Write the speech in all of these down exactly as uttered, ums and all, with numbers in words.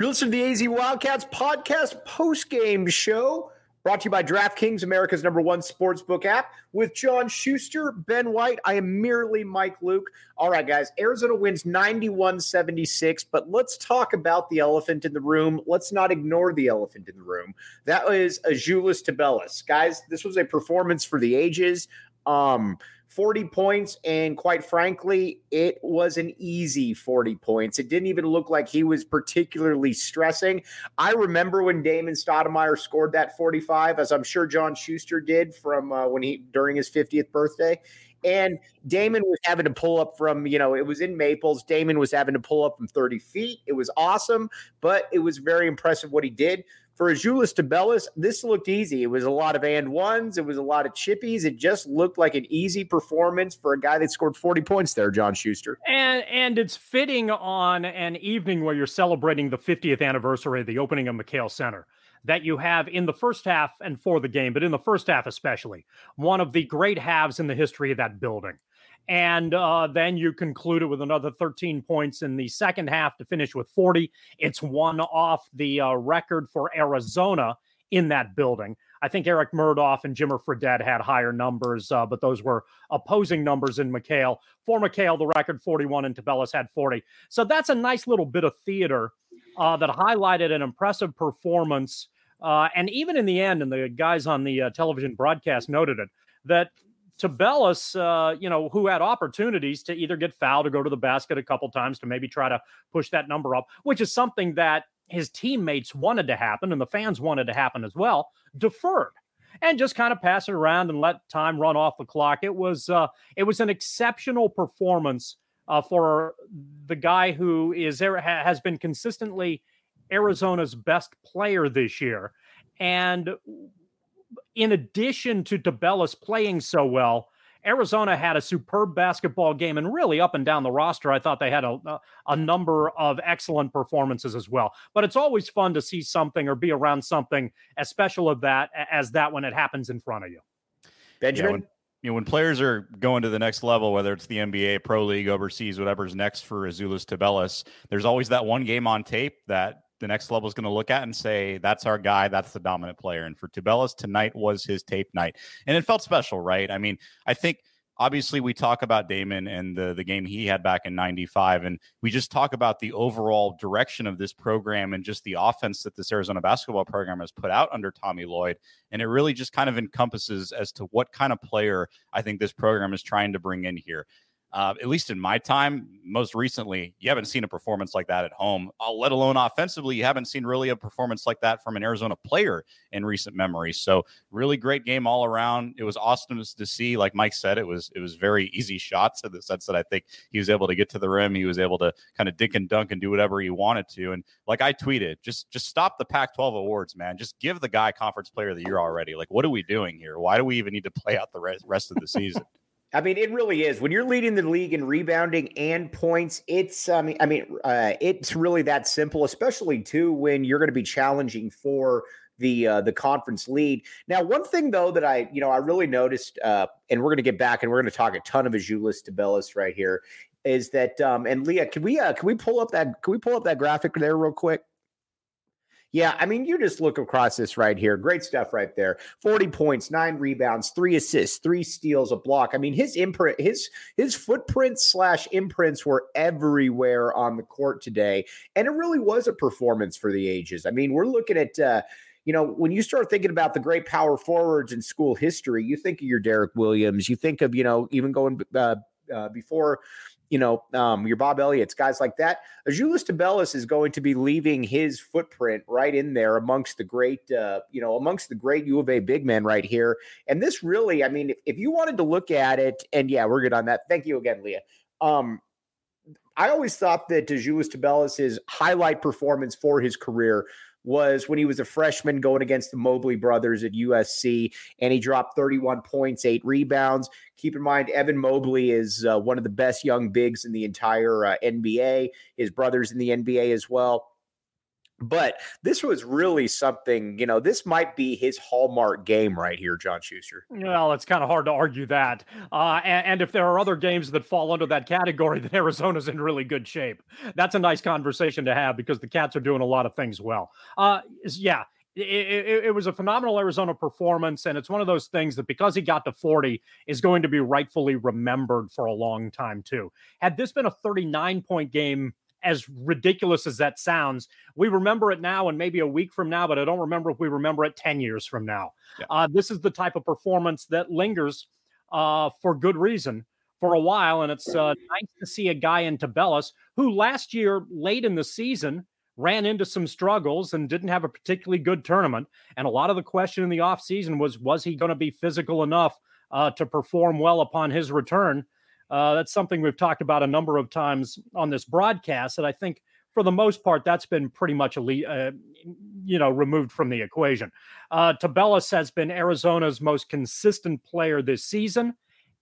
You're listening to the A Z Wildcats podcast post-game show, brought to you by DraftKings, America's number one sportsbook app, with John Schuster, Ben White. I am merely Mike Luke. All right, guys, Arizona wins ninety-one seventy-six, but let's talk about the elephant in the room. Let's not ignore the elephant in the room. That is Azuolas Tubelis. Guys, this was a performance for the ages. Um, forty points, and quite frankly, it was an easy forty points. It didn't even look like he was particularly stressing. I remember when Damon Stoudemire scored that forty-five, as I'm sure John Schuster did from uh, when he during his fiftieth birthday. And Damon was having to pull up from, you know, it was in Maples. Damon was having to pull up from thirty feet. It was awesome, but it was very impressive what he did. For Azuolas Tubelis, this looked easy. It was a lot of and ones. It was a lot of chippies. It just looked like an easy performance for a guy that scored forty points there, John Schuster. And and it's fitting on an evening where you're celebrating the fiftieth anniversary of the opening of McKale Center, that you have in the first half and for the game, but in the first half especially, one of the great halves in the history of that building. And uh, then you conclude it with another thirteen points in the second half to finish with forty. It's one off the uh, record for Arizona in that building. I think Eric Murdoff and Jimmer Fredette had higher numbers, uh, but those were opposing numbers in McKale. For McKale, the record forty-one, and Tubelis had forty. So that's a nice little bit of theater uh, that highlighted an impressive performance. Uh, and even in the end, and the guys on the uh, television broadcast noted it, that Tubelis, uh, you know, who had opportunities to either get fouled or go to the basket a couple times to maybe try to push that number up, which is something that his teammates wanted to happen and the fans wanted to happen as well, deferred and just kind of pass it around and let time run off the clock. It was uh, it was an exceptional performance uh, for the guy who is has been consistently Arizona's best player this year. And in addition to Tubelis playing so well, Arizona had a superb basketball game, and really up and down the roster, I thought they had a, a number of excellent performances as well. But it's always fun to see something or be around something as special of that as that when it happens in front of you. Benjamin? Yeah, when, you know, when players are going to the next level, whether it's the N B A, Pro League, overseas, whatever's next for Azuolas Tubelis, there's always that one game on tape that the next level is going to look at and say, that's our guy, that's the dominant player. And for Tubelis, tonight was his tape night. And it felt special, right? I mean, I think obviously we talk about Damon and the, the game he had back in ninety-five, and we just talk about the overall direction of this program and just the offense that this Arizona basketball program has put out under Tommy Lloyd. And it really just kind of encompasses as to what kind of player I think this program is trying to bring in here. Uh, at least in my time, most recently, you haven't seen a performance like that at home, uh, let alone offensively. You haven't seen really a performance like that from an Arizona player in recent memory. So really great game all around. It was awesome to see. Like Mike said, it was it was very easy shots in the sense that I think he was able to get to the rim. He was able to kind of dink and dunk and do whatever he wanted to. And like I tweeted, just just stop the Pac twelve awards, man. Just give the guy Conference Player of the Year already. Like, what are we doing here? Why do we even need to play out the rest, rest of the season? I mean, it really is. When you're leading the league in rebounding and points, it's I mean, I mean, uh, it's really that simple. Especially too when you're going to be challenging for the uh, the conference lead. Now, one thing though that I you know I really noticed, uh, and we're going to get back and we're going to talk a ton of Azuolas Tubelis right here, is that um, and Leah, can we uh, can we pull up that can we pull up that graphic there real quick? Yeah, I mean, you just look across this right here. Great stuff right there. forty points, nine rebounds, three assists, three steals, a block. I mean, his imprint, his his footprints slash imprints were everywhere on the court today. And it really was a performance for the ages. I mean, we're looking at, uh, you know, when you start thinking about the great power forwards in school history, you think of your Derek Williams. You think of, you know, even going uh, uh, before – you know, um, your Bob Elliott's, guys like that. Azuolas Tubelis is going to be leaving his footprint right in there amongst the great, uh, you know, amongst the great U of A big men right here. And this really, I mean, if, if you wanted to look at it, and yeah, we're good on that. Thank you again, Leah. Um, I always thought that Azuolas Tubelis' highlight performance for his career was when he was a freshman going against the Mobley brothers at U S C, and he dropped thirty-one points, eight rebounds. Keep in mind, Evan Mobley is uh, one of the best young bigs in the entire uh, N B A. His brother's in the N B A as well. But this was really something, you know, this might be his hallmark game right here, John Schuster. Well, it's kind of hard to argue that. Uh, and, and if there are other games that fall under that category, then Arizona's in really good shape. That's a nice conversation to have because the Cats are doing a lot of things well. Uh, yeah, it, it, it was a phenomenal Arizona performance, and it's one of those things that because he got to forty is going to be rightfully remembered for a long time, too. Had this been a thirty-nine point game, as ridiculous as that sounds, we remember it now and maybe a week from now, but I don't remember if we remember it ten years from now. Yeah. Uh, this is the type of performance that lingers uh, for good reason for a while. And it's uh, nice to see a guy in Tubelis who last year, late in the season, ran into some struggles and didn't have a particularly good tournament. And a lot of the question in the offseason was, was he going to be physical enough uh, to perform well upon his return? Uh, that's something we've talked about a number of times on this broadcast, and I think for the most part, that's been pretty much, elite, uh, you know, removed from the equation. Uh, Tubelis has been Arizona's most consistent player this season,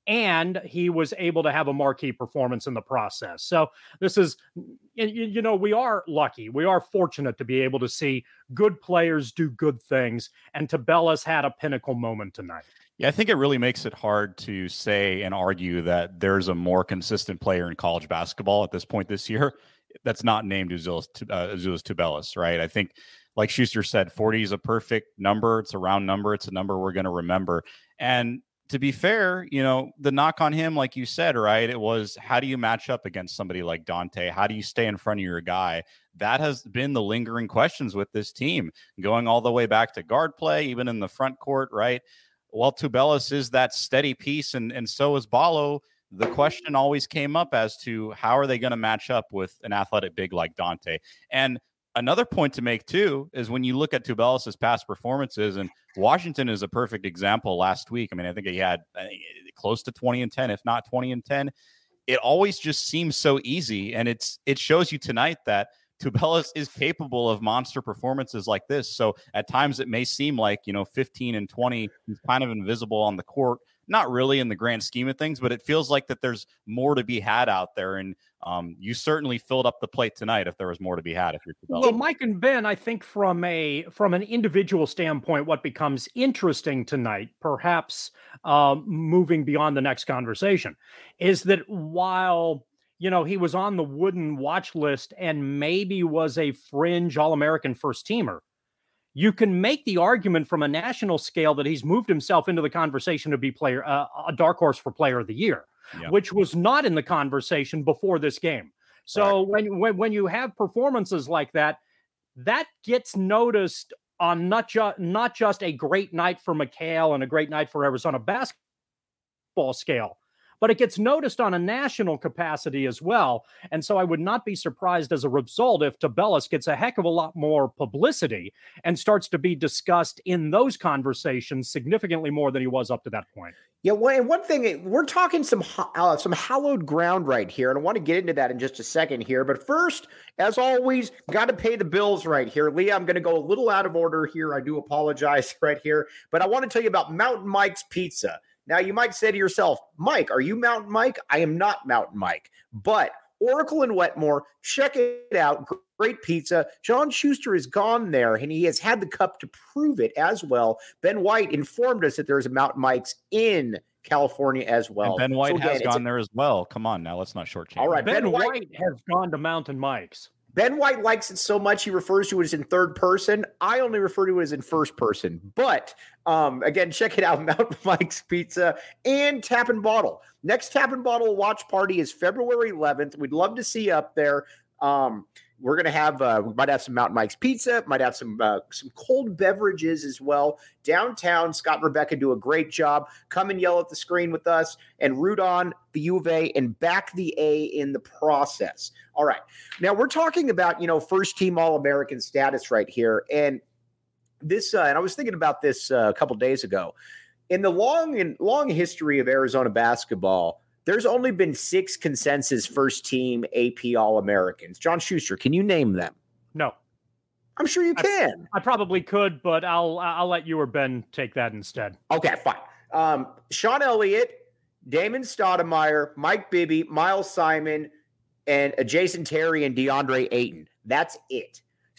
and he was able to have a marquee performance in the process. So this is, you, you know, we are lucky. We are fortunate to be able to see good players do good things, and Tubelis had a pinnacle moment tonight. Yeah, I think it really makes it hard to say and argue that there's a more consistent player in college basketball at this point this year that's not named Azuolas uh, Azuolas Tubelis, right? I think, like Schuster said, forty is a perfect number. It's a round number. It's a number we're going to remember. And to be fair, you know, the knock on him, like you said, right, it was how do you match up against somebody like Dante? How do you stay in front of your guy? That has been the lingering questions with this team, going all the way back to guard play, even in the front court, right? While Tubelis is that steady piece, and, and so is Ballo, the question always came up as to how are they going to match up with an athletic big like Dante. And another point to make, too, is when you look at Tubelis' past performances, and Washington is a perfect example last week. I mean, I think he had I think, close to twenty and ten, if not twenty and ten. It always just seems so easy, and it's it shows you tonight that Tubelis is capable of monster performances like this. So at times it may seem like, you know, fifteen and twenty, he's kind of invisible on the court. Not really in the grand scheme of things, but it feels like that there's more to be had out there. And um, you certainly filled up the plate tonight if there was more to be had. If you're Tubelis. Well, Mike and Ben, I think from a from an individual standpoint, what becomes interesting tonight, perhaps uh, moving beyond the next conversation, is that while you know, he was on the Wooden watch list and maybe was a fringe All-American first teamer, you can make the argument from a national scale that he's moved himself into the conversation to be player uh, a dark horse for player of the year, yeah. which was not in the conversation before this game. So right. when, when when you have performances like that, that gets noticed on not just not just a great night for McHale and a great night for Arizona basketball scale, but it gets noticed on a national capacity as well. And so I would not be surprised as a result if Tubelis gets a heck of a lot more publicity and starts to be discussed in those conversations significantly more than he was up to that point. Yeah, well, and one thing, we're talking some uh, some hallowed ground right here, and I want to get into that in just a second here. But first, as always, got to pay the bills right here. Leah, I'm going to go a little out of order here. I do apologize right here. But I want to tell you about Mountain Mike's Pizza. Now, you might say to yourself, Mike, are you Mountain Mike? I am not Mountain Mike. But Oracle and Wetmore, check it out. Great pizza. John Schuster has gone there, and he has had the cup to prove it as well. Ben White informed us that there's a Mountain Mike's in California as well. And Ben White so again, has gone a- there as well. Come on now, let's not shortchange. All right, Ben, Ben White, White has gone to Mountain Mike's. Ben White likes it so much he refers to it as in third person. I only refer to it as in first person. But um, again, check it out, Mountain Mike's Pizza and Tap and Bottle. Next Tap and Bottle watch party is February eleventh. We'd love to see you up there. Um, we're going to have, uh, we might have some Mountain Mike's Pizza, might have some uh, some cold beverages as well. Downtown, Scott and Rebecca do a great job. Come and yell at the screen with us and root on the U of A and back the A in the process. All right. Now we're talking about, you know, first team All-American status right here. And this, uh, and I was thinking about this uh, a couple days ago. In the long and long history of Arizona basketball, there's only been six consensus first team A P All-Americans. John Schuster, can you name them? No. I'm sure you can. I, I probably could, but I'll I'll let you or Ben take that instead. Okay, fine. Um, Sean Elliott, Damon Stoudemire, Mike Bibby, Miles Simon, and Jason Terry and DeAndre Ayton. That's it.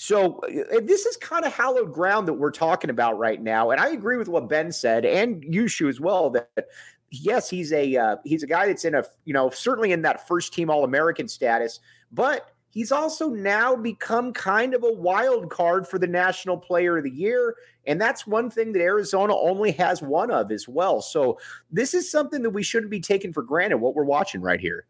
So uh, this is kind of hallowed ground that we're talking about right now. And I agree with what Ben said and Yushu as well, that yes, he's a uh, he's a guy that's in a, you know, certainly in that first team All-American status, but he's also now become kind of a wild card for the National Player of the Year. And that's one thing that Arizona only has one of as well. So this is something that we shouldn't be taking for granted, what we're watching right here.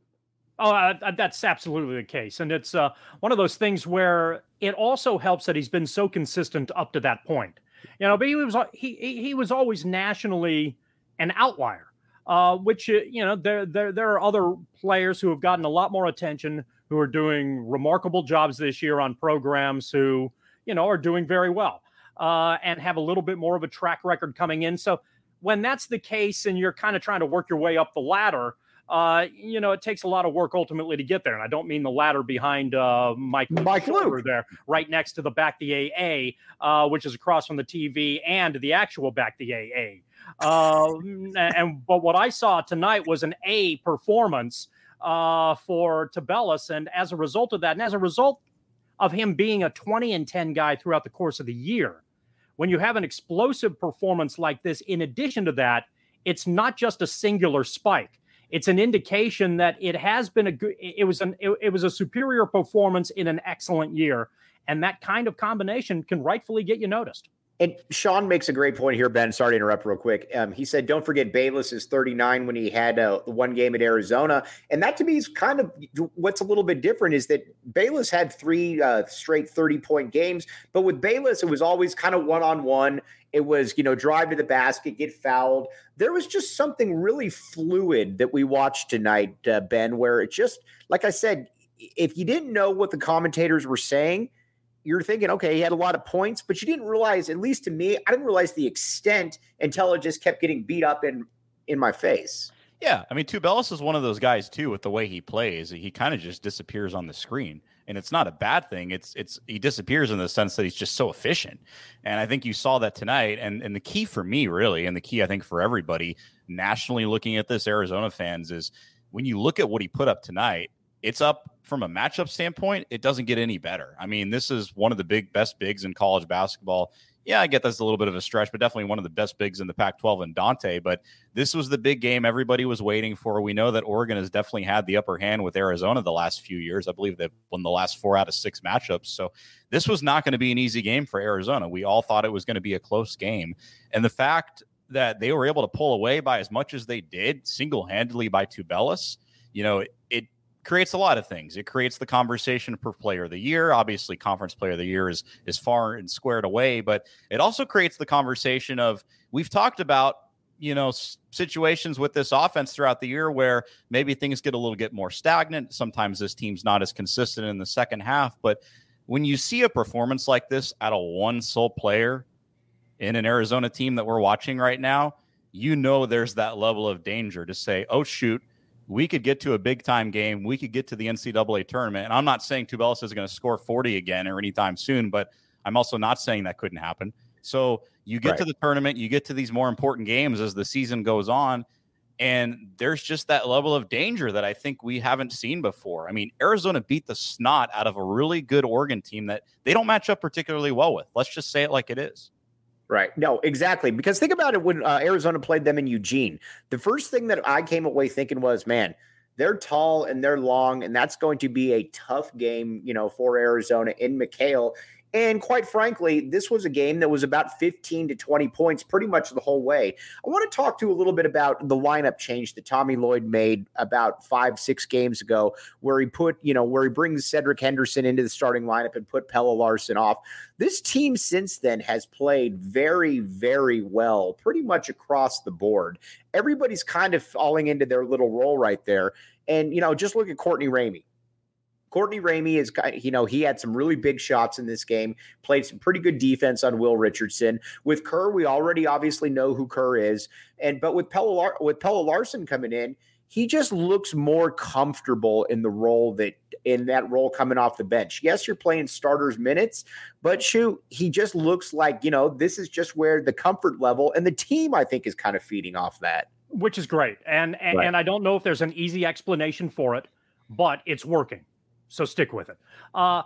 Oh, uh, that's absolutely the case. And it's uh, one of those things where it also helps that he's been so consistent up to that point. You know, but he was he he was always nationally an outlier, uh, which, you know, there, there, there are other players who have gotten a lot more attention, who are doing remarkable jobs this year on programs who, you know, are doing very well uh, and have a little bit more of a track record coming in. So when that's the case and you're kind of trying to work your way up the ladder, Uh, you know, it takes a lot of work ultimately to get there. And I don't mean the ladder behind uh, Mike, Mike Luke there, right next to the Back the A A, uh, which is across from the T V and the actual Back the A A. Uh, and but what I saw tonight was an A performance uh, for Tubelis. And as a result of that, and as a result of him being a twenty and ten guy throughout the course of the year, when you have an explosive performance like this, in addition to that, it's not just a singular spike. It's an indication that it has been a good, it was an, it, it was a superior performance in an excellent year. And that kind of combination can rightfully get you noticed. And Sean makes a great point here, Ben. Sorry to interrupt real quick. Um, he said, don't forget Bayless is thirty-nine when he had uh, one game at Arizona. And that to me is kind of what's a little bit different is that Bayless had three uh, straight thirty-point games. But with Bayless, it was always kind of one-on-one. It was, you know, drive to the basket, get fouled. There was just something really fluid that we watched tonight, uh, Ben, where it just, like I said, if you didn't know what the commentators were saying, you're thinking, okay, he had a lot of points, but you didn't realize, at least to me, I didn't realize the extent until it just kept getting beat up in, in my face. Yeah, I mean, Tubelis is one of those guys, too, with the way he plays. He kind of just disappears on the screen. And it's not a bad thing. It's it's he disappears in the sense that he's just so efficient. And I think you saw that tonight. And, and the key for me, really, and the key, I think, for everybody nationally looking at this, Arizona fans, is when you look at what he put up tonight, it's up from a matchup standpoint. It doesn't get any better. I mean, this is one of the big best bigs in college basketball. Yeah, I get that's a little bit of a stretch, but definitely one of the best bigs in the Pac twelve in Dante. But this was the big game everybody was waiting for. We know that Oregon has definitely had the upper hand with Arizona the last few years. I believe they've won the last four out of six matchups. So this was not going to be an easy game for Arizona. We all thought it was going to be a close game. And the fact that they were able to pull away by as much as they did, single-handedly by Tubelis, you know, it, it creates a lot of things. It creates the conversation for player of the year. Obviously, conference player of the year is, is far and squared away, but it also creates the conversation of, we've talked about, you know, s- situations with this offense throughout the year where maybe things get a little bit more stagnant. Sometimes this team's not as consistent in the second half, but when you see a performance like this out of one sole player in an Arizona team that we're watching right now, you know, there's that level of danger to say, oh, shoot, we could get to a big-time game. We could get to the N C double A tournament. And I'm not saying Tubelis is going to score forty again or anytime soon, but I'm also not saying that couldn't happen. So you get right to the tournament, you get to these more important games as the season goes on, and there's just that level of danger that I think we haven't seen before. I mean, Arizona beat the snot out of a really good Oregon team that they don't match up particularly well with. Let's just say it like it is. Right. No, exactly. Because think about it when uh, Arizona played them in Eugene. The first thing that I came away thinking was, man, they're tall and they're long, and that's going to be a tough game, you know, for Arizona in McKale. And quite frankly, this was a game that was about fifteen to twenty points pretty much the whole way. I want to talk to you a little bit about the lineup change that Tommy Lloyd made about five, six games ago, where he put, you know, where he brings Cedric Henderson into the starting lineup and put Pelle Larsson off. This team since then has played very, very well, pretty much across the board. Everybody's kind of falling into their little role right there. And, you know, just look at Courtney Ramey. Courtney Ramey is, you know, he had some really big shots in this game, played some pretty good defense on Will Richardson. With Kerr, we already obviously know who Kerr is. And, but with Pelle, Lar- with Pelle Larsson coming in, he just looks more comfortable in the role that, in that role coming off the bench. Yes, you're playing starters minutes, but shoot, he just looks like, you know, this is just where the comfort level and the team, I think, is kind of feeding off that. Which is great. And, and, right. and I don't know if there's an easy explanation for it, but it's working. So stick with it. Uh,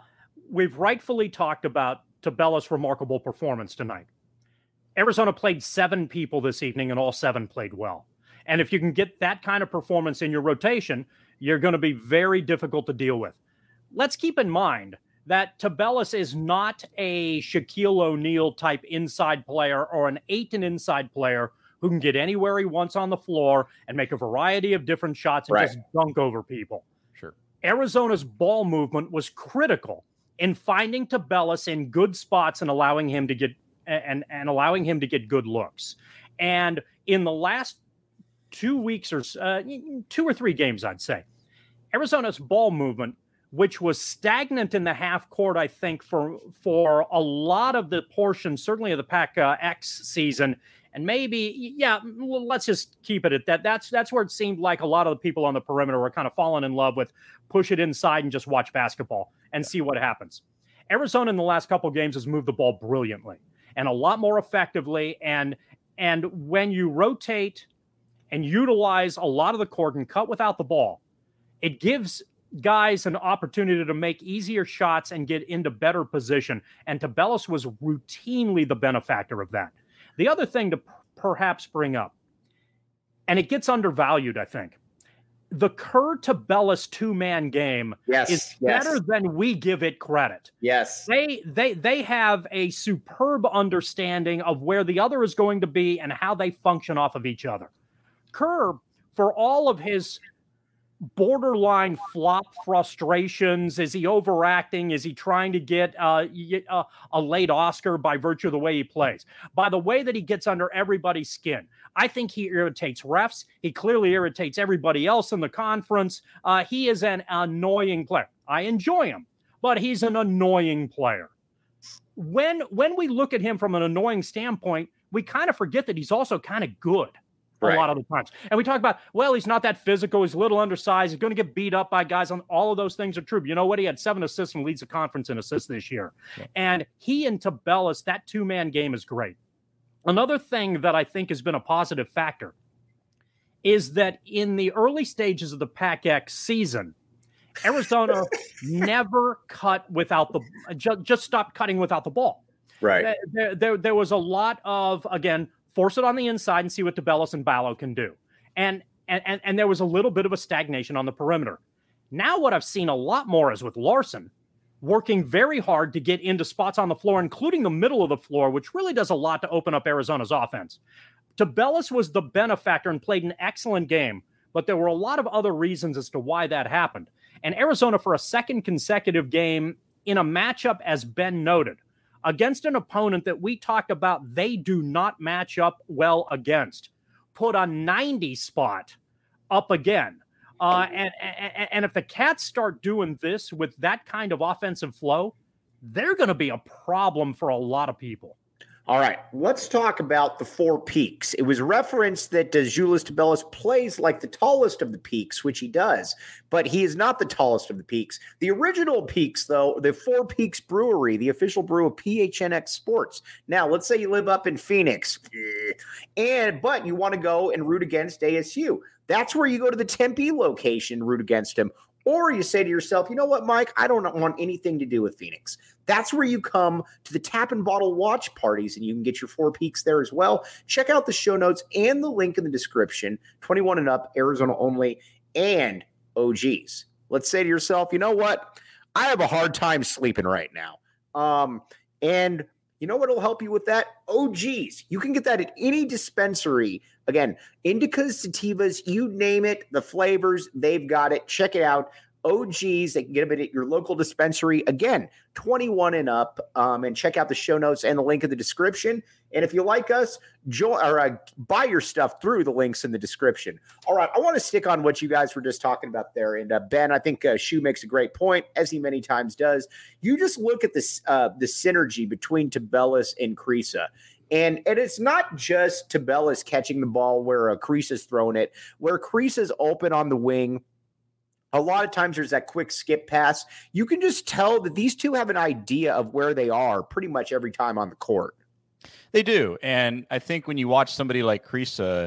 we've rightfully talked about Tubelis' remarkable performance tonight. Arizona played seven people this evening, and all seven played well. And if you can get that kind of performance in your rotation, you're going to be very difficult to deal with. Let's keep in mind that Tubelis is not a Shaquille O'Neal type inside player or an Ayton inside player who can get anywhere he wants on the floor and make a variety of different shots and right. just dunk over people. Sure. Arizona's ball movement was critical in finding Tubelis in good spots and allowing him to get and, and allowing him to get good looks. And in the last two weeks or uh, two or three games, I'd say, Arizona's ball movement, which was stagnant in the half court, I think, for for a lot of the portion, certainly of the Pac uh, X season, and maybe, yeah, let's just keep it at that. That's that's where it seemed like a lot of the people on the perimeter were kind of falling in love with push it inside and just watch basketball and see what happens. Arizona in the last couple of games has moved the ball brilliantly and a lot more effectively. And and when you rotate and utilize a lot of the court and cut without the ball, it gives guys an opportunity to make easier shots and get into better position. And Tubelis was routinely the benefactor of that. The other thing to p- perhaps bring up, and it gets undervalued, I think, the Kerr-Tubelis two-man game yes, is yes. better than we give it credit. Yes. They they they have a superb understanding of where the other is going to be and how they function off of each other. Kerr, for all of his borderline flop frustrations, is he overacting? Is he trying to get uh, a, a late Oscar by virtue of the way he plays? By the way that he gets under everybody's skin. I think he irritates refs. He clearly irritates everybody else in the conference. Uh, he is an annoying player. I enjoy him, but he's an annoying player. When, when we look at him from an annoying standpoint, we kind of forget that he's also kind of good. Right. A lot of the times. And we talk about, well, he's not that physical. He's a little undersized. He's going to get beat up by guys. On all of those things are true. But you know what? He had seven assists and leads the conference in assists this year. Yeah. And he and Tubelis, that two-man game is great. Another thing that I think has been a positive factor is that in the early stages of the Pac X season, Arizona never cut without the just, just stopped cutting without the ball. Right. There, there, there was a lot of, again, force it on the inside and see what Tubelis and Ballo can do. And, and, and there was a little bit of a stagnation on the perimeter. Now what I've seen a lot more is with Larson working very hard to get into spots on the floor, including the middle of the floor, which really does a lot to open up Arizona's offense. Tubelis was the benefactor and played an excellent game, but there were a lot of other reasons as to why that happened. And Arizona, for a second consecutive game in a matchup, as Ben noted, against an opponent that we talked about they do not match up well against, put a ninety spot up again. Uh, and, and, and if the Cats start doing this with that kind of offensive flow, they're going to be a problem for a lot of people. All right, let's talk about the four peaks. It was referenced that uh, Azuolas Tubelis plays like the tallest of the peaks, which he does, but he is not the tallest of the peaks. The original peaks, though, the Four Peaks Brewery, the official brew of P H N X Sports. Now, let's say you live up in Phoenix, and but you want to go and root against A S U. That's where you go to the Tempe location and root against him. Or you say to yourself, you know what, Mike, I don't want anything to do with Phoenix. That's where you come to the Tap and Bottle watch parties, and you can get your Four Peaks there as well. Check out the show notes and the link in the description. twenty-one and up, Arizona only, and O Gs. Let's say to yourself, you know what, I have a hard time sleeping right now. Um, and you know what will help you with that? O Gs. You can get that at any dispensary. Again, indicas, sativas, you name it, the flavors, they've got it. Check it out. O Gs, they can get them at your local dispensary. Again, twenty-one and up. Um, and check out the show notes and the link in the description. And if you like us, join or uh, buy your stuff through the links in the description. All right, I want to stick on what you guys were just talking about there. And uh, Ben, I think uh, Shu makes a great point, as he many times does. You just look at this uh, the synergy between Tubelis and Kriisa. And, and it's not just Tubelis catching the ball where uh, Kriisa's throwing it, where Kriisa's open on the wing. A lot of times there's that quick skip pass. You can just tell that these two have an idea of where they are pretty much every time on the court. They do. And I think when you watch somebody like Kriisa,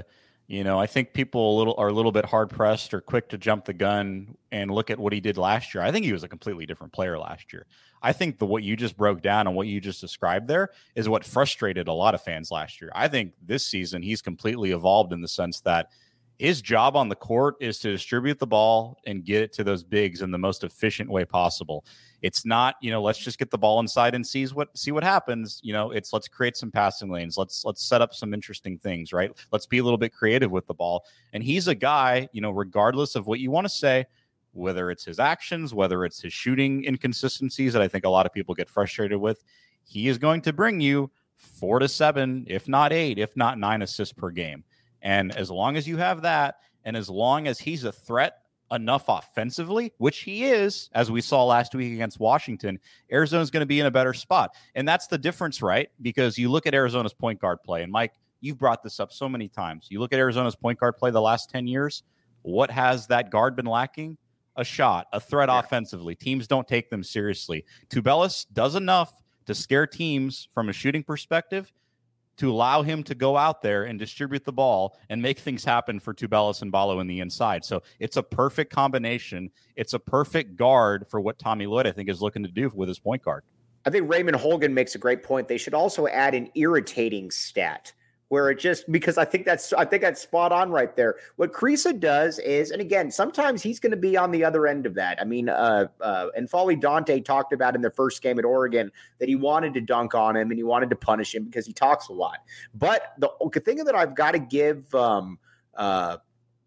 You know, I think people a little are a little bit hard pressed or quick to jump the gun and look at what he did last year. I think he was a completely different player last year. I think the what you just broke down and what you just described there is what frustrated a lot of fans last year. I think this season he's completely evolved in the sense that his job on the court is to distribute the ball and get it to those bigs in the most efficient way possible. It's not, you know, let's just get the ball inside and see what see what happens. You know, it's let's create some passing lanes. Let's let's set up some interesting things, right? Let's be a little bit creative with the ball. And he's a guy, you know, regardless of what you want to say, whether it's his actions, whether it's his shooting inconsistencies that I think a lot of people get frustrated with, he is going to bring you four to seven, if not eight, if not nine assists per game. And as long as you have that, and as long as he's a threat enough offensively, which he is, as we saw last week against Washington, Arizona's going to be in a better spot. And that's the difference, right? Because you look at Arizona's point guard play, and Mike, you've brought this up so many times. You look at Arizona's point guard play the last ten years, what has that guard been lacking? A shot, a threat yeah. offensively. Teams don't take them seriously. Tubelis does enough to scare teams from a shooting perspective to allow him to go out there and distribute the ball and make things happen for Tubelis and Ballo in the inside. So it's a perfect combination. It's a perfect guard for what Tommy Lloyd, I think, is looking to do with his point guard. I think Raymond Holgan makes a great point. They should also add an irritating stat where it just, because I think that's, I think that's spot on right there. What Kriisa does is, and again, sometimes he's going to be on the other end of that. I mean, uh, uh, and N'Faly Dante talked about in the first game at Oregon that he wanted to dunk on him and he wanted to punish him because he talks a lot. But the, the thing that I've got to give, um, uh,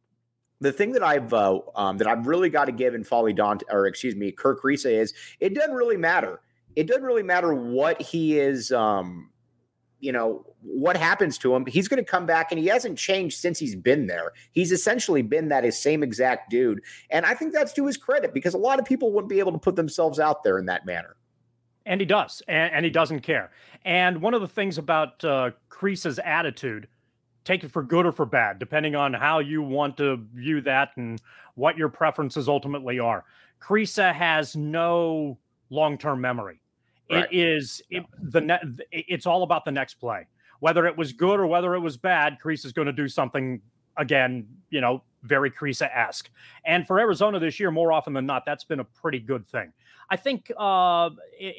the thing that I've uh, um, that I've really got to give N'Faly Dante, or excuse me, Kerr Kriisa is, it doesn't really matter. It doesn't really matter what he is, um, you know, what happens to him. He's going to come back, and he hasn't changed since he's been there. He's essentially been that his same exact dude. And I think that's to his credit, because a lot of people wouldn't be able to put themselves out there in that manner. And he does, and, and he doesn't care. And one of the things about uh, Kriisa's attitude, take it for good or for bad, depending on how you want to view that and what your preferences ultimately are. Kriisa has no long-term memory. Right. It is it, the ne- it's all about the next play. Whether it was good or whether it was bad, Kriisa is going to do something, again, you know, very Kriisa-esque. And for Arizona this year, more often than not, that's been a pretty good thing. I think uh,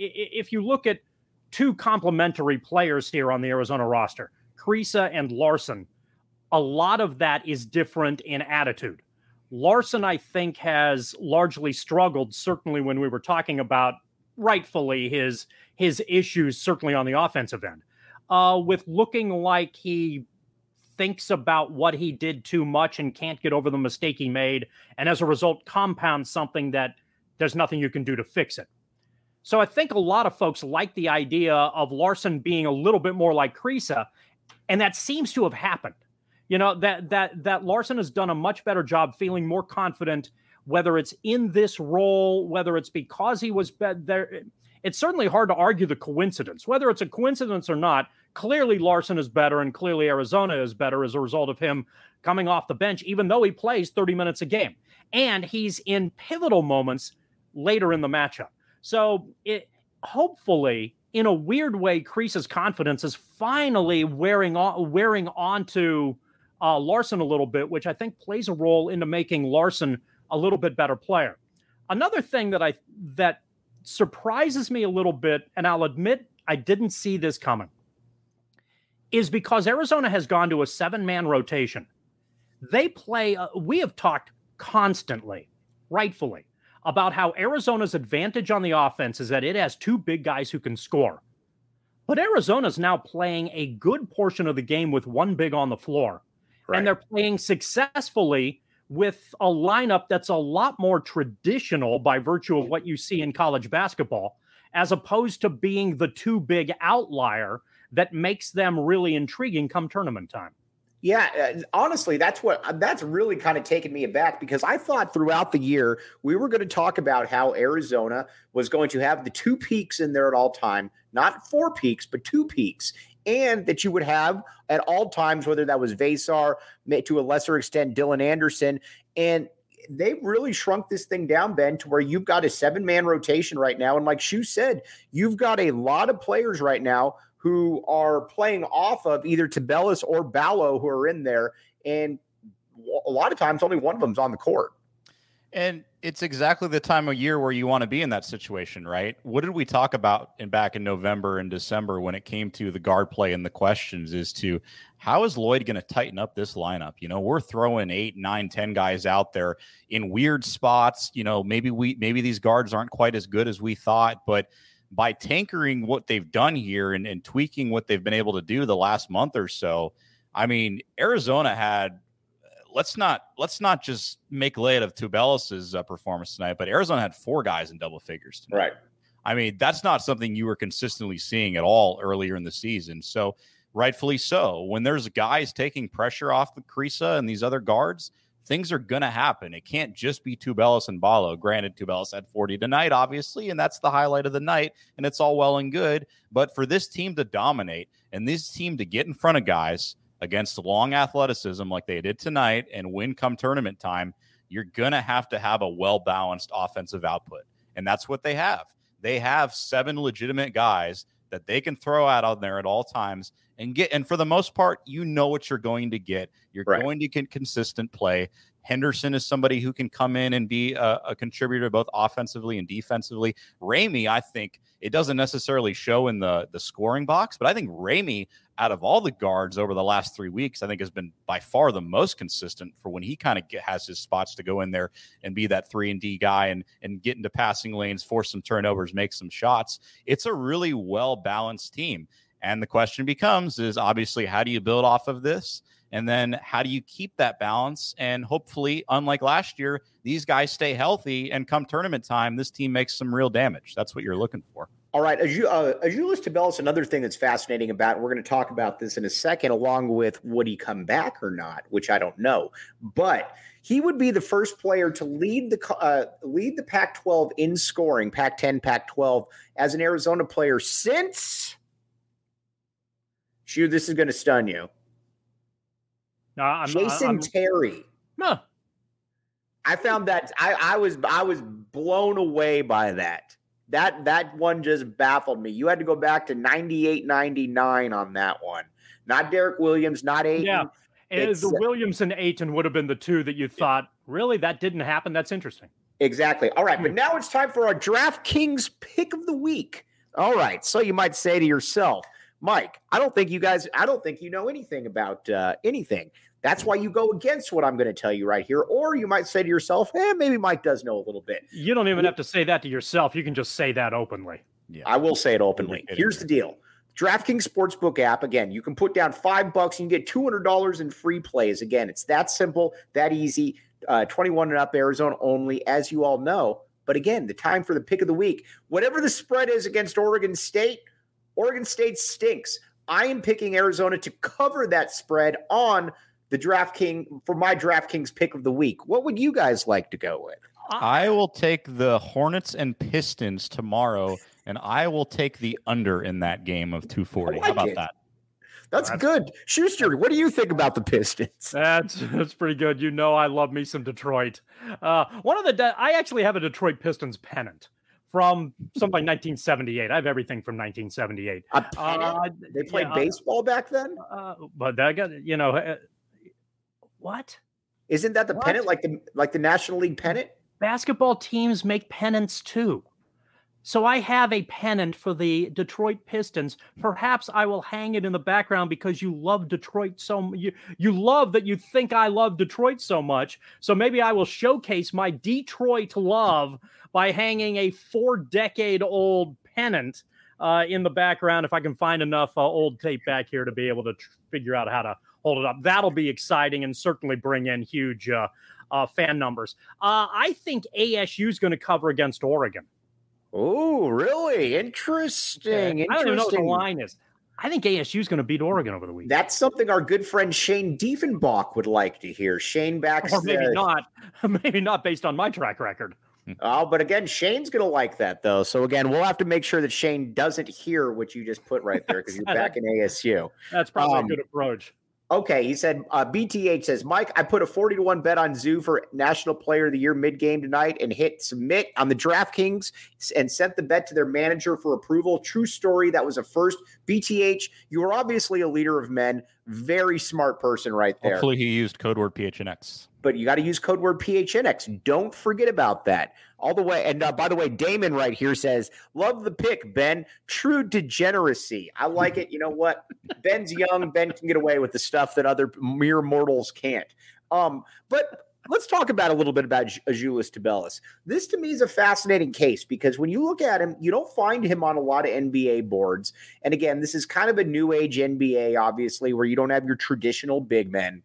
if you look at two complementary players here on the Arizona roster, Kriisa and Larson, a lot of that is different in attitude. Larson, I think, has largely struggled, certainly when we were talking about rightfully his his issues, certainly on the offensive end, uh, with looking like he thinks about what he did too much and can't get over the mistake he made, and as a result compounds something that there's nothing you can do to fix it. So I think a lot of folks like the idea of Larson being a little bit more like Kriisa, and that seems to have happened. You know, that that that Larson has done a much better job feeling more confident, whether it's in this role, whether it's because he was be- there. It's certainly hard to argue the coincidence. Whether it's a coincidence or not, clearly Larson is better and clearly Arizona is better as a result of him coming off the bench, even though he plays thirty minutes a game. And he's in pivotal moments later in the matchup. So it hopefully, in a weird way, Kriisa's confidence is finally wearing on, wearing onto uh, Larson a little bit, which I think plays a role into making Larson a little bit better player. Another thing that I that surprises me a little bit, and I'll admit I didn't see this coming, is because Arizona has gone to a seven-man rotation. They play, uh, we have talked constantly, rightfully, about how Arizona's advantage on the offense is that it has two big guys who can score. But Arizona's now playing a good portion of the game with one big on the floor. Right. And they're playing successfully with a lineup that's a lot more traditional by virtue of what you see in college basketball, as opposed to being the too big outlier that makes them really intriguing come tournament time. Yeah, uh, honestly, that's what that's really kind of taken me aback, because I thought throughout the year we were going to talk about how Arizona was going to have the two peaks in there at all time, not four peaks, but two peaks, and that you would have at all times, whether that was Vesar, to a lesser extent, Dylan Anderson, and they really shrunk this thing down, Ben, to where you've got a seven-man rotation right now. And like Shu said, you've got a lot of players right now who are playing off of either Tubelis or Ballo who are in there. And a lot of times only one of them's on the court. And it's exactly the time of year where you want to be in that situation, right? What did we talk about in back in November and December when it came to the guard play and the questions as to how is Lloyd going to tighten up this lineup? You know, we're throwing eight, nine, ten guys out there in weird spots. You know, maybe we maybe these guards aren't quite as good as we thought, but by tankering what they've done here and, and tweaking what they've been able to do the last month or so, I mean, Arizona had let's not let's not just make light of Tubelis's uh, performance tonight, but Arizona had four guys in double figures tonight. Right. I mean, that's not something you were consistently seeing at all earlier in the season. So rightfully so. When there's guys taking pressure off the Kriisa and these other guards, things are going to happen. It can't just be Tubelis and Ballo. Granted, Tubelis had forty tonight, obviously, and that's the highlight of the night, and it's all well and good. But for this team to dominate and this team to get in front of guys against long athleticism like they did tonight and win come tournament time, you're going to have to have a well-balanced offensive output. And that's what they have. They have seven legitimate guys that they can throw out on there at all times and get. And for the most part, you know what you're going to get. You're right. going to get consistent play. Henderson is somebody who can come in and be a, a contributor both offensively and defensively. Ramey, I think it doesn't necessarily show in the, the scoring box, but I think Ramey, out of all the guards over the last three weeks, I think has been by far the most consistent for when he kind of has his spots to go in there and be that three and D guy and, and get into passing lanes, force some turnovers, make some shots. It's a really well-balanced team. And the question becomes is obviously, how do you build off of this? And then how do you keep that balance? And hopefully, unlike last year, these guys stay healthy and come tournament time, this team makes some real damage. That's what you're looking for. All right. As you, uh, Azuolas Tubelis, another thing that's fascinating about, and we're going to talk about this in a second, along with would he come back or not, which I don't know. But he would be the first player to lead the uh, lead the Pac twelve in scoring, Pac ten, Pac twelve, as an Arizona player since, shoot, this is going to stun you. No, I'm, Jason I'm, Terry. No. I found that I, I was I was blown away by that. That that one just baffled me. You had to go back to ninety-eight ninety-nine on that one. Not Derek Williams, not Ayton. Yeah. And the Williams and Ayton would have been the two that you thought, really, that didn't happen? That's interesting. Exactly. All right, but now it's time for our DraftKings pick of the week. All right, so you might say to yourself, Mike, I don't think you guys, I don't think you know anything about uh, anything. That's why you go against what I'm going to tell you right here. Or you might say to yourself, eh, maybe Mike does know a little bit. You don't even have to say that to yourself. You can just say that openly. Yeah. I will say it openly. Here's the deal. DraftKings Sportsbook app, again, you can put down five bucks and you get two hundred dollars in free plays. Again, it's that simple, that easy. Uh, twenty-one and up, Arizona only, as you all know. But again, the time for the pick of the week. Whatever the spread is against Oregon State, Oregon State stinks. I am picking Arizona to cover that spread on the DraftKings for my DraftKings pick of the week. What would you guys like to go with? I will take the Hornets and Pistons tomorrow, and I will take the under in that game of two forty. Like How about it. that? That's, that's good. Schuster, what do you think about the Pistons? That's that's pretty good. You know I love me some Detroit. Uh, one of the de- I actually have a Detroit Pistons pennant from something like nineteen seventy-eight. I have everything from nineteen seventy-eight. A pennant? Uh, they played yeah, baseball back then? Uh, but that got, you know, uh, what? Isn't that the what? pennant, like the like the National League pennant? Basketball teams make pennants too. So I have a pennant for the Detroit Pistons. Perhaps I will hang it in the background because you love Detroit so you you love that you think I love Detroit so much. So maybe I will showcase my Detroit love by hanging a four-decade-old pennant uh, in the background. If I can find enough uh, old tape back here to be able to tr- figure out how to hold it up, that'll be exciting and certainly bring in huge uh, uh, fan numbers. Uh, I think A S U is going to cover against Oregon. Oh, really? Interesting. Yeah. Interesting. I don't even know what the line is. I think A S U is going to beat Oregon over the weekend. That's something our good friend Shane Diefenbach would like to hear. Shane backs Or maybe the... not. Maybe not based on my track record. Oh, but again, Shane's going to like that, though. So, again, we'll have to make sure that Shane doesn't hear what you just put right there because you're back in A S U. That's probably um, a good approach. Okay, he said, uh, B T H says, Mike, I put a forty to one bet on Zoo for National Player of the Year mid-game tonight and hit submit on the DraftKings and sent the bet to their manager for approval. True story. That was a first B T H, you are obviously a leader of men. Very smart person right there. Hopefully he used code word P H N X. But you got to use code word P H N X. Don't forget about that. All the way. And uh, by the way, Damon right here says, love the pick, Ben. True degeneracy. I like it. You know what? Ben's young. Ben can get away with the stuff that other mere mortals can't. Um, but let's talk about a little bit about Azuolas Tubelis. This to me is a fascinating case because when you look at him, you don't find him on a lot of N B A boards. And again, this is kind of a new age N B A, obviously, where you don't have your traditional big men.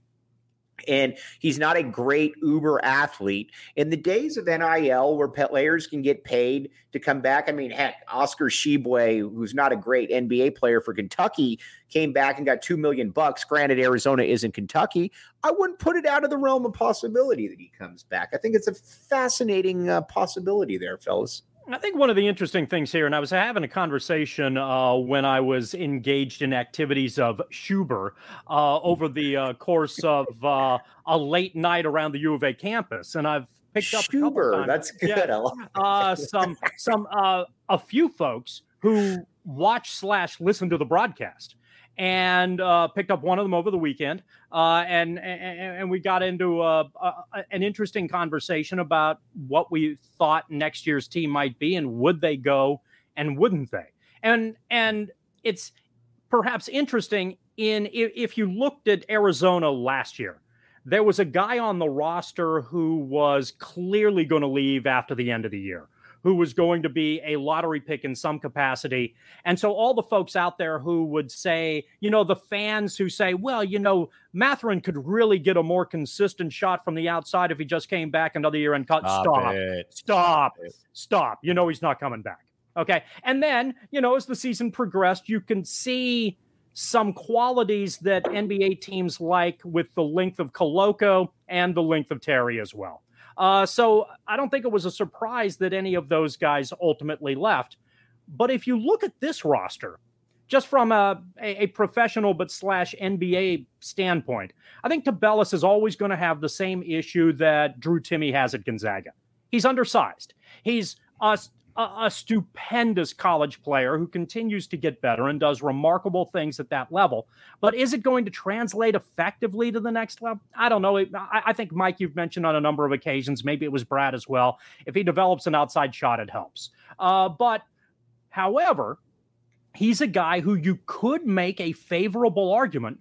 And he's not a great uber athlete. In the days of N I L where players can get paid to come back, I mean, heck, Oscar Tshiebwe, who's not a great N B A player for Kentucky, came back and got two million bucks. Granted, Arizona isn't Kentucky. I wouldn't put it out of the realm of possibility that he comes back. I think it's a fascinating uh, possibility there, fellas. I think one of the interesting things here, and I was having a conversation uh, when I was engaged in activities of Schuber uh, over the uh, course of uh, a late night around the U of A campus, and I've picked up Schuber. That's good. Yeah, I love uh, some some uh, a few folks who watch slash listen to the broadcast. And uh, picked up one of them over the weekend, uh, and, and and we got into uh, uh, an interesting conversation about what we thought next year's team might be, and would they go, and wouldn't they? And and it's perhaps interesting in if, if you looked at Arizona last year, there was a guy on the roster who was clearly going to leave after the end of the year, who was going to be a lottery pick in some capacity. And so all the folks out there who would say, you know, the fans who say, well, you know, Mathurin could really get a more consistent shot from the outside if he just came back another year and cut. Stop, stop, stop, stop. You know, he's not coming back. Okay. And then, you know, as the season progressed, you can see some qualities that N B A teams like with the length of Koloko and the length of Terry as well. Uh, so I don't think it was a surprise that any of those guys ultimately left. But if you look at this roster, just from a, a, a professional but slash N B A standpoint, I think Tubelis is always going to have the same issue that Drew Timme has at Gonzaga. He's undersized. He's a, a, a stupendous college player who continues to get better and does remarkable things at that level. But is it going to translate effectively to the next level? I don't know. I, I think, Mike, you've mentioned on a number of occasions, maybe it was Brad as well, if he develops an outside shot, it helps. Uh, but, however, he's a guy who you could make a favorable argument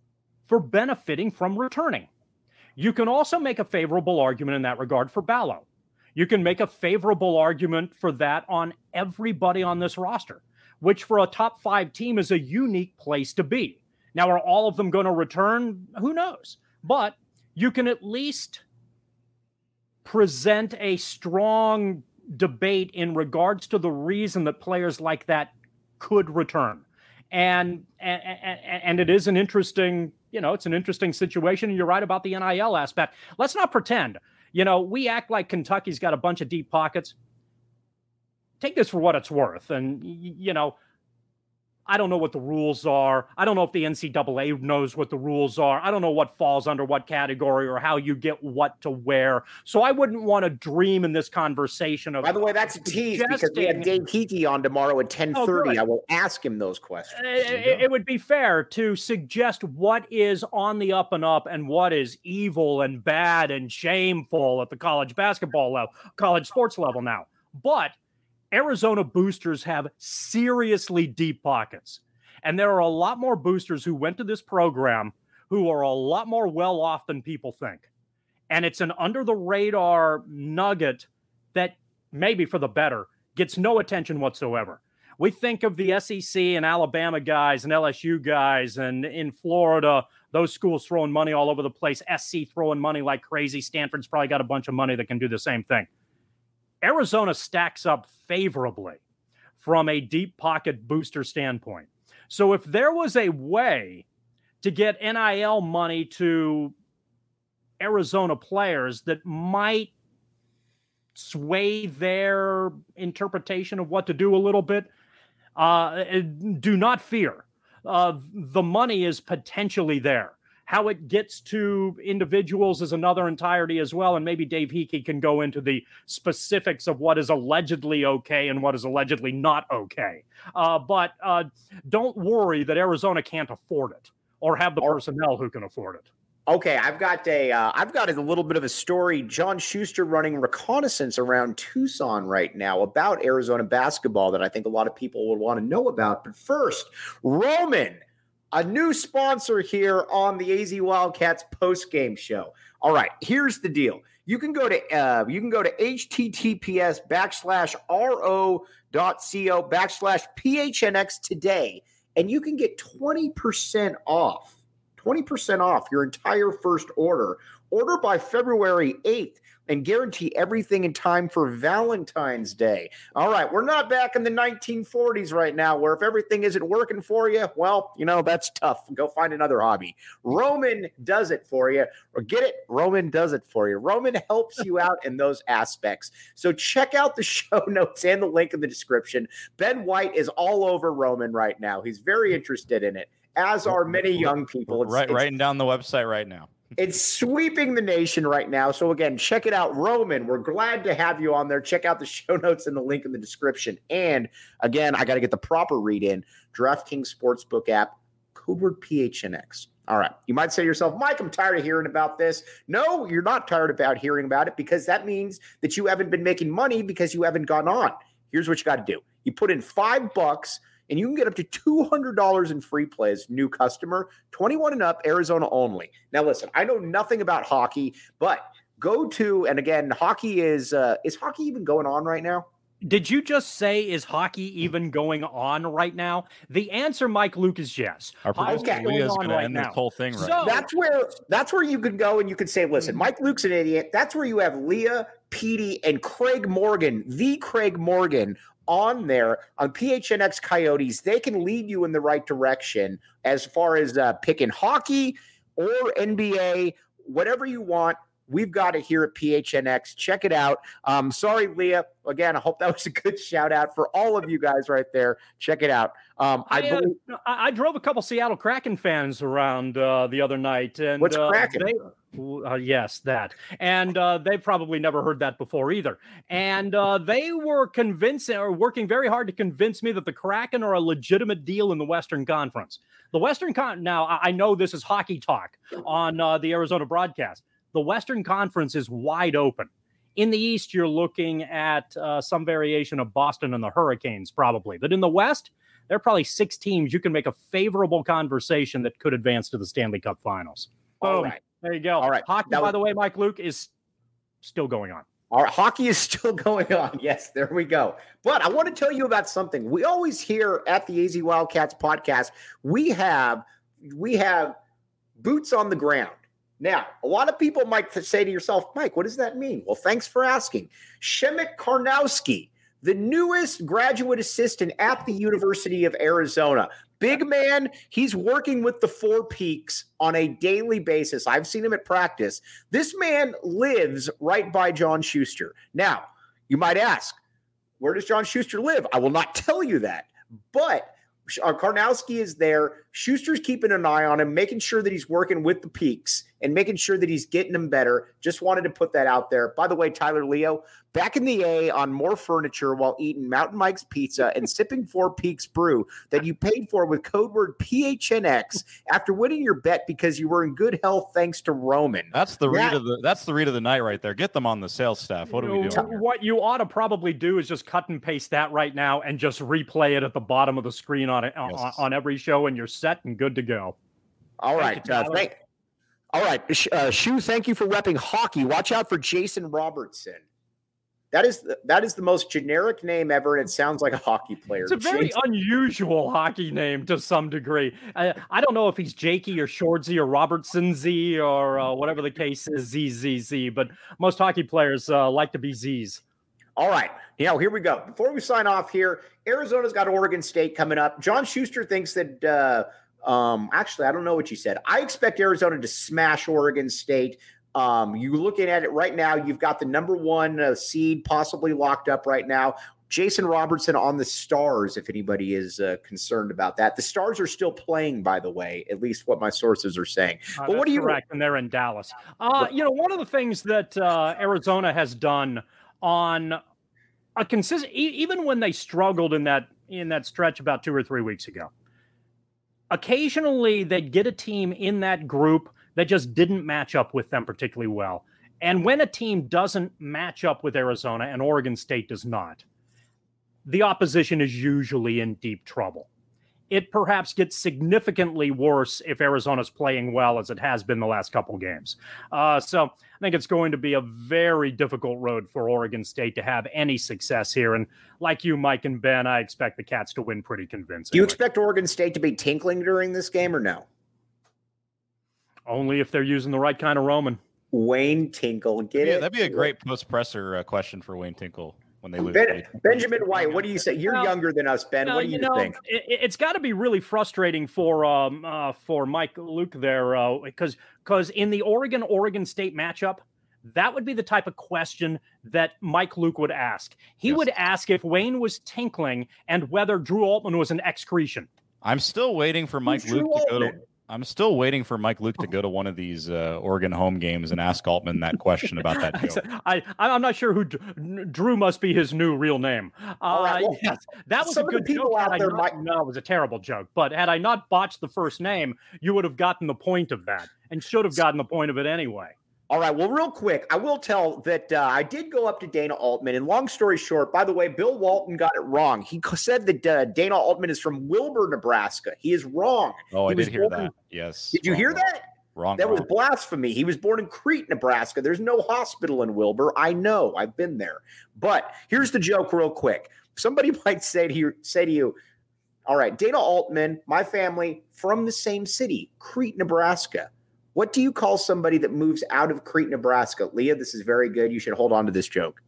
for benefiting from returning. You can also make a favorable argument in that regard for Ballo. You can make a favorable argument for that on everybody on this roster, which for a top five team is a unique place to be. Now, are all of them going to return? Who knows? But you can at least present a strong debate in regards to the reason that players like that could return. And, and, and it is an interesting, you know, it's an interesting situation. And you're right about the N I L aspect. Let's not pretend. You know, we act like Kentucky's got a bunch of deep pockets. Take this for what it's worth. And, you know, I don't know what the rules are. I don't know if the N C double A knows what the rules are. I don't know what falls under what category or how you get what to wear. So I wouldn't want to dream in this conversation of. By the way, that's a tease because we have Dave Kiki on tomorrow at ten thirty. Oh, I will ask him those questions. It, it would be fair to suggest what is on the up and up and what is evil and bad and shameful at the college basketball level, college sports level now. But Arizona boosters have seriously deep pockets. And there are a lot more boosters who went to this program who are a lot more well off than people think. And it's an under the radar nugget that maybe for the better gets no attention whatsoever. We think of the S E C and Alabama guys and L S U guys, and in Florida, those schools throwing money all over the place, S C throwing money like crazy. Stanford's probably got a bunch of money that can do the same thing. Arizona stacks up favorably from a deep pocket booster standpoint. So if there was a way to get N I L money to Arizona players that might sway their interpretation of what to do a little bit, uh, do not fear. Uh, the money is potentially there. How it gets to individuals is another entirety as well. And maybe Dave Hickey can go into the specifics of what is allegedly okay and what is allegedly not okay. Uh, but uh, don't worry that Arizona can't afford it or have the personnel who can afford it. Okay, I've got a, uh, I've got a little bit of a story. John Schuster running reconnaissance around Tucson right now about Arizona basketball that I think a lot of people would want to know about. But first, Roman, a new sponsor here on the A Z Wildcats post-game show. All right, here's the deal. You can go to uh, you can go to https backslash ro dot co backslash phnx today, and you can get twenty percent off. twenty percent off your entire first order. Order by February eighth and guarantee everything in time for Valentine's Day. All right, we're not back in the nineteen forties right now where if everything isn't working for you, well, you know, that's tough. Go find another hobby. Roman does it for you. Or get it? Roman does it for you. Roman helps you out in those aspects. So check out the show notes and the link in the description. Ben White is all over Roman right now. He's very interested in it, as are many young people. It's, right, it's, writing down the website right now. It's sweeping the nation right now. So again, check it out. Roman, we're glad to have you on there. Check out the show notes and the link in the description. And again, I got to get the proper read in. DraftKings Sportsbook app, code word P H N X. All right. You might say to yourself, Mike, I'm tired of hearing about this. No, you're not tired about hearing about it because that means that you haven't been making money because you haven't gone on. Here's what you got to do. You put in five bucks and you can get up to two hundred dollars in free plays, new customer, twenty-one and up, Arizona only. Now, listen, I know nothing about hockey, but go to, and again, hockey is, uh, is hockey even going on right now? Did you just say, is hockey even going on right now? The answer, Mike Luke, is yes. Our producer Leah is going to end this whole thing right so, now. That's where, that's where you can go and you can say, listen, Mike Luke's an idiot. That's where you have Leah, Petey, and Craig Morgan, the Craig Morgan, on there on P H N X Coyotes. They can lead you in the right direction as far as uh, picking hockey or N B A, whatever you want. We've got it here at P H N X. Check it out. Um, sorry, Leah. Again, I hope that was a good shout out for all of you guys right there. Check it out. Um, I, I, uh, believe- I drove a couple Seattle Kraken fans around uh, the other night. And, What's uh, Kraken? They, uh, yes, that. And uh, they probably never heard that before either. And uh, they were convincing or working very hard to convince me that the Kraken are a legitimate deal in the Western Conference. The Western Con. Now, I know this is hockey talk on uh, the Arizona broadcast. The Western Conference is wide open. In the East, you're looking at uh, some variation of Boston and the Hurricanes, probably. But in the West, there are probably six teams you can make a favorable conversation that could advance to the Stanley Cup Finals. Boom. All right. There you go. All right. Hockey, That by was- the way, Mike Luke, is still going on. Our hockey is still going on. Yes, there we go. But I want to tell you about something. We always hear at the A Z Wildcats podcast, we have we have boots on the ground. Now, a lot of people might say to yourself, Mike, what does that mean? Well, thanks for asking. Shemek Karnowski, the newest graduate assistant at the University of Arizona. Big man, he's working with the Four Peaks on a daily basis. I've seen him at practice. This man lives right by John Schuster. Now, you might ask, where does John Schuster live? I will not tell you that, but uh, Karnowski is there. Schuster's keeping an eye on him, making sure that he's working with the Peaks and making sure that he's getting them better. Just wanted to put that out there. By the way, Tyler Leo, back in the A on more furniture while eating Mountain Mike's pizza and sipping Four Peaks brew that you paid for with code word P H N X after winning your bet because you were in good health thanks to Roman. That's the read That- of the that's the read of the night right there. Get them on the sales staff. What are we You know, doing here? What you ought to probably do is just cut and paste that right now and just replay it at the bottom of the screen on, on, Yes. on every show, and you're set and good to go. All Thank right. you, uh, Tyler. thank, all right. Sh- Uh, Shu, thank you for repping hockey. Watch out for Jason Robertson. That is the, that is the most generic name ever, and it sounds like a hockey player. It's a very Jason- unusual hockey name to some degree. I, I don't know if he's Jakey or Shortsy or Robertson Z or uh, whatever the case is, Z Z Z, but most hockey players uh, like to be Z's. All right. Now, here we go. Before we sign off here, Arizona's got Oregon State coming up. John Schuster thinks that uh, um, – actually, I don't know what you said. I expect Arizona to smash Oregon State. Um, you looking at it right now, you've got the number one uh, seed possibly locked up right now. Jason Robertson on the Stars, if anybody is uh, concerned about that. The Stars are still playing, by the way, at least what my sources are saying. Uh, but what do you correct? And they're in Dallas. Uh, you know, one of the things that uh, Arizona has done on a consistent, e- even when they struggled in that in that stretch about two or three weeks ago, occasionally they'd get a team in that group that just didn't match up with them particularly well. And when a team doesn't match up with Arizona and Oregon State does not, the opposition is usually in deep trouble. It perhaps gets significantly worse if Arizona's playing well, as it has been the last couple games. Uh, so I think it's going to be a very difficult road for Oregon State to have any success here. And like you, Mike and Ben, I expect the Cats to win pretty convincingly. Do you expect Oregon State to be tinkling during this game or no? Only if they're using the right kind of Roman. Wayne Tinkle, get yeah, it? That'd be a great post-presser uh, question for Wayne Tinkle. When they lose, ben, Benjamin White, what do you say? You're well, younger than us, Ben. No, what do you, you know, think? It, it's got to be really frustrating for um uh, for Mike Luke there, because uh, because in the Oregon Oregon State matchup, that would be the type of question that Mike Luke would ask. He yes. would ask if Wayne was tinkling and whether Drew Altman was an excretion. I'm still waiting for Mike Who's Luke Drew to Altman? go to. I'm still waiting for Mike Luke to go to one of these uh, Oregon home games and ask Altman that question about that joke. I, I'm not sure who Drew must be his new real name. Uh, right, well, yes, that was some a good of the people joke. out Had there not, might... No, it was a terrible joke. But had I not botched the first name, you would have gotten the point of that and should have gotten the point of it anyway. All right. Well, real quick, I will tell that uh, I did go up to Dana Altman. And long story short, by the way, Bill Walton got it wrong. He said that uh, Dana Altman is from Wilbur, Nebraska. He is wrong. Oh, he I did hear born... that. Yes. Did you wrong, hear wrong. that? Wrong. That wrong. was blasphemy. He was born in Crete, Nebraska. There's no hospital in Wilbur. I know. I've been there. But here's the joke real quick. Somebody might say to you, say to you, all right, Dana Altman, my family from the same city, Crete, Nebraska. What do you call somebody that moves out of Crete, Nebraska? Leah, this is very good. You should hold on to this joke.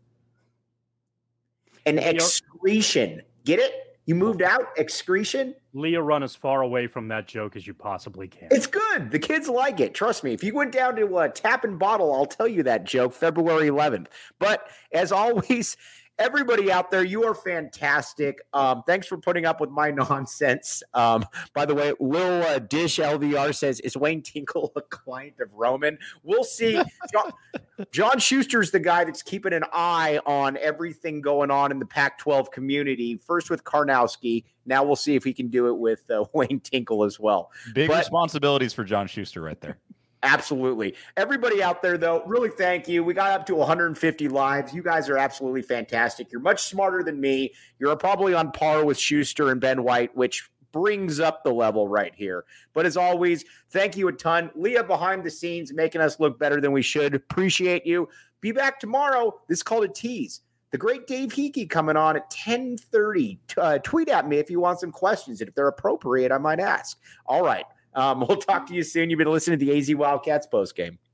An excretion. Get it? You moved out? Excretion? Leah, run as far away from that joke as you possibly can. It's good. The kids like it. Trust me. If you went down to uh, Tap and Bottle, I'll tell you that joke February eleventh. But as always, everybody out there, you are fantastic. Um, thanks for putting up with my nonsense. Um, by the way, Lil uh, Dish L V R says, is Wayne Tinkle a client of Roman? We'll see. John, John Schuster's the guy that's keeping an eye on everything going on in the Pac twelve community, first with Karnowski. Now we'll see if he can do it with uh, Wayne Tinkle as well. Big but, responsibilities for John Schuster right there. Absolutely. Everybody out there, though, really thank you. We got up to one hundred fifty lives. You guys are absolutely fantastic. You're much smarter than me. You're probably on par with Schuster and Ben White, which brings up the level right here. But as always, thank you a ton. Leah behind the scenes, making us look better than we should. Appreciate you. Be back tomorrow. This is called a tease. The great Dave Hickey coming on at ten thirty. Uh, tweet at me if you want some questions. And if they're appropriate, I might ask. All right. Um, we'll talk to you soon. You've been listening to the A Z Wildcats postgame.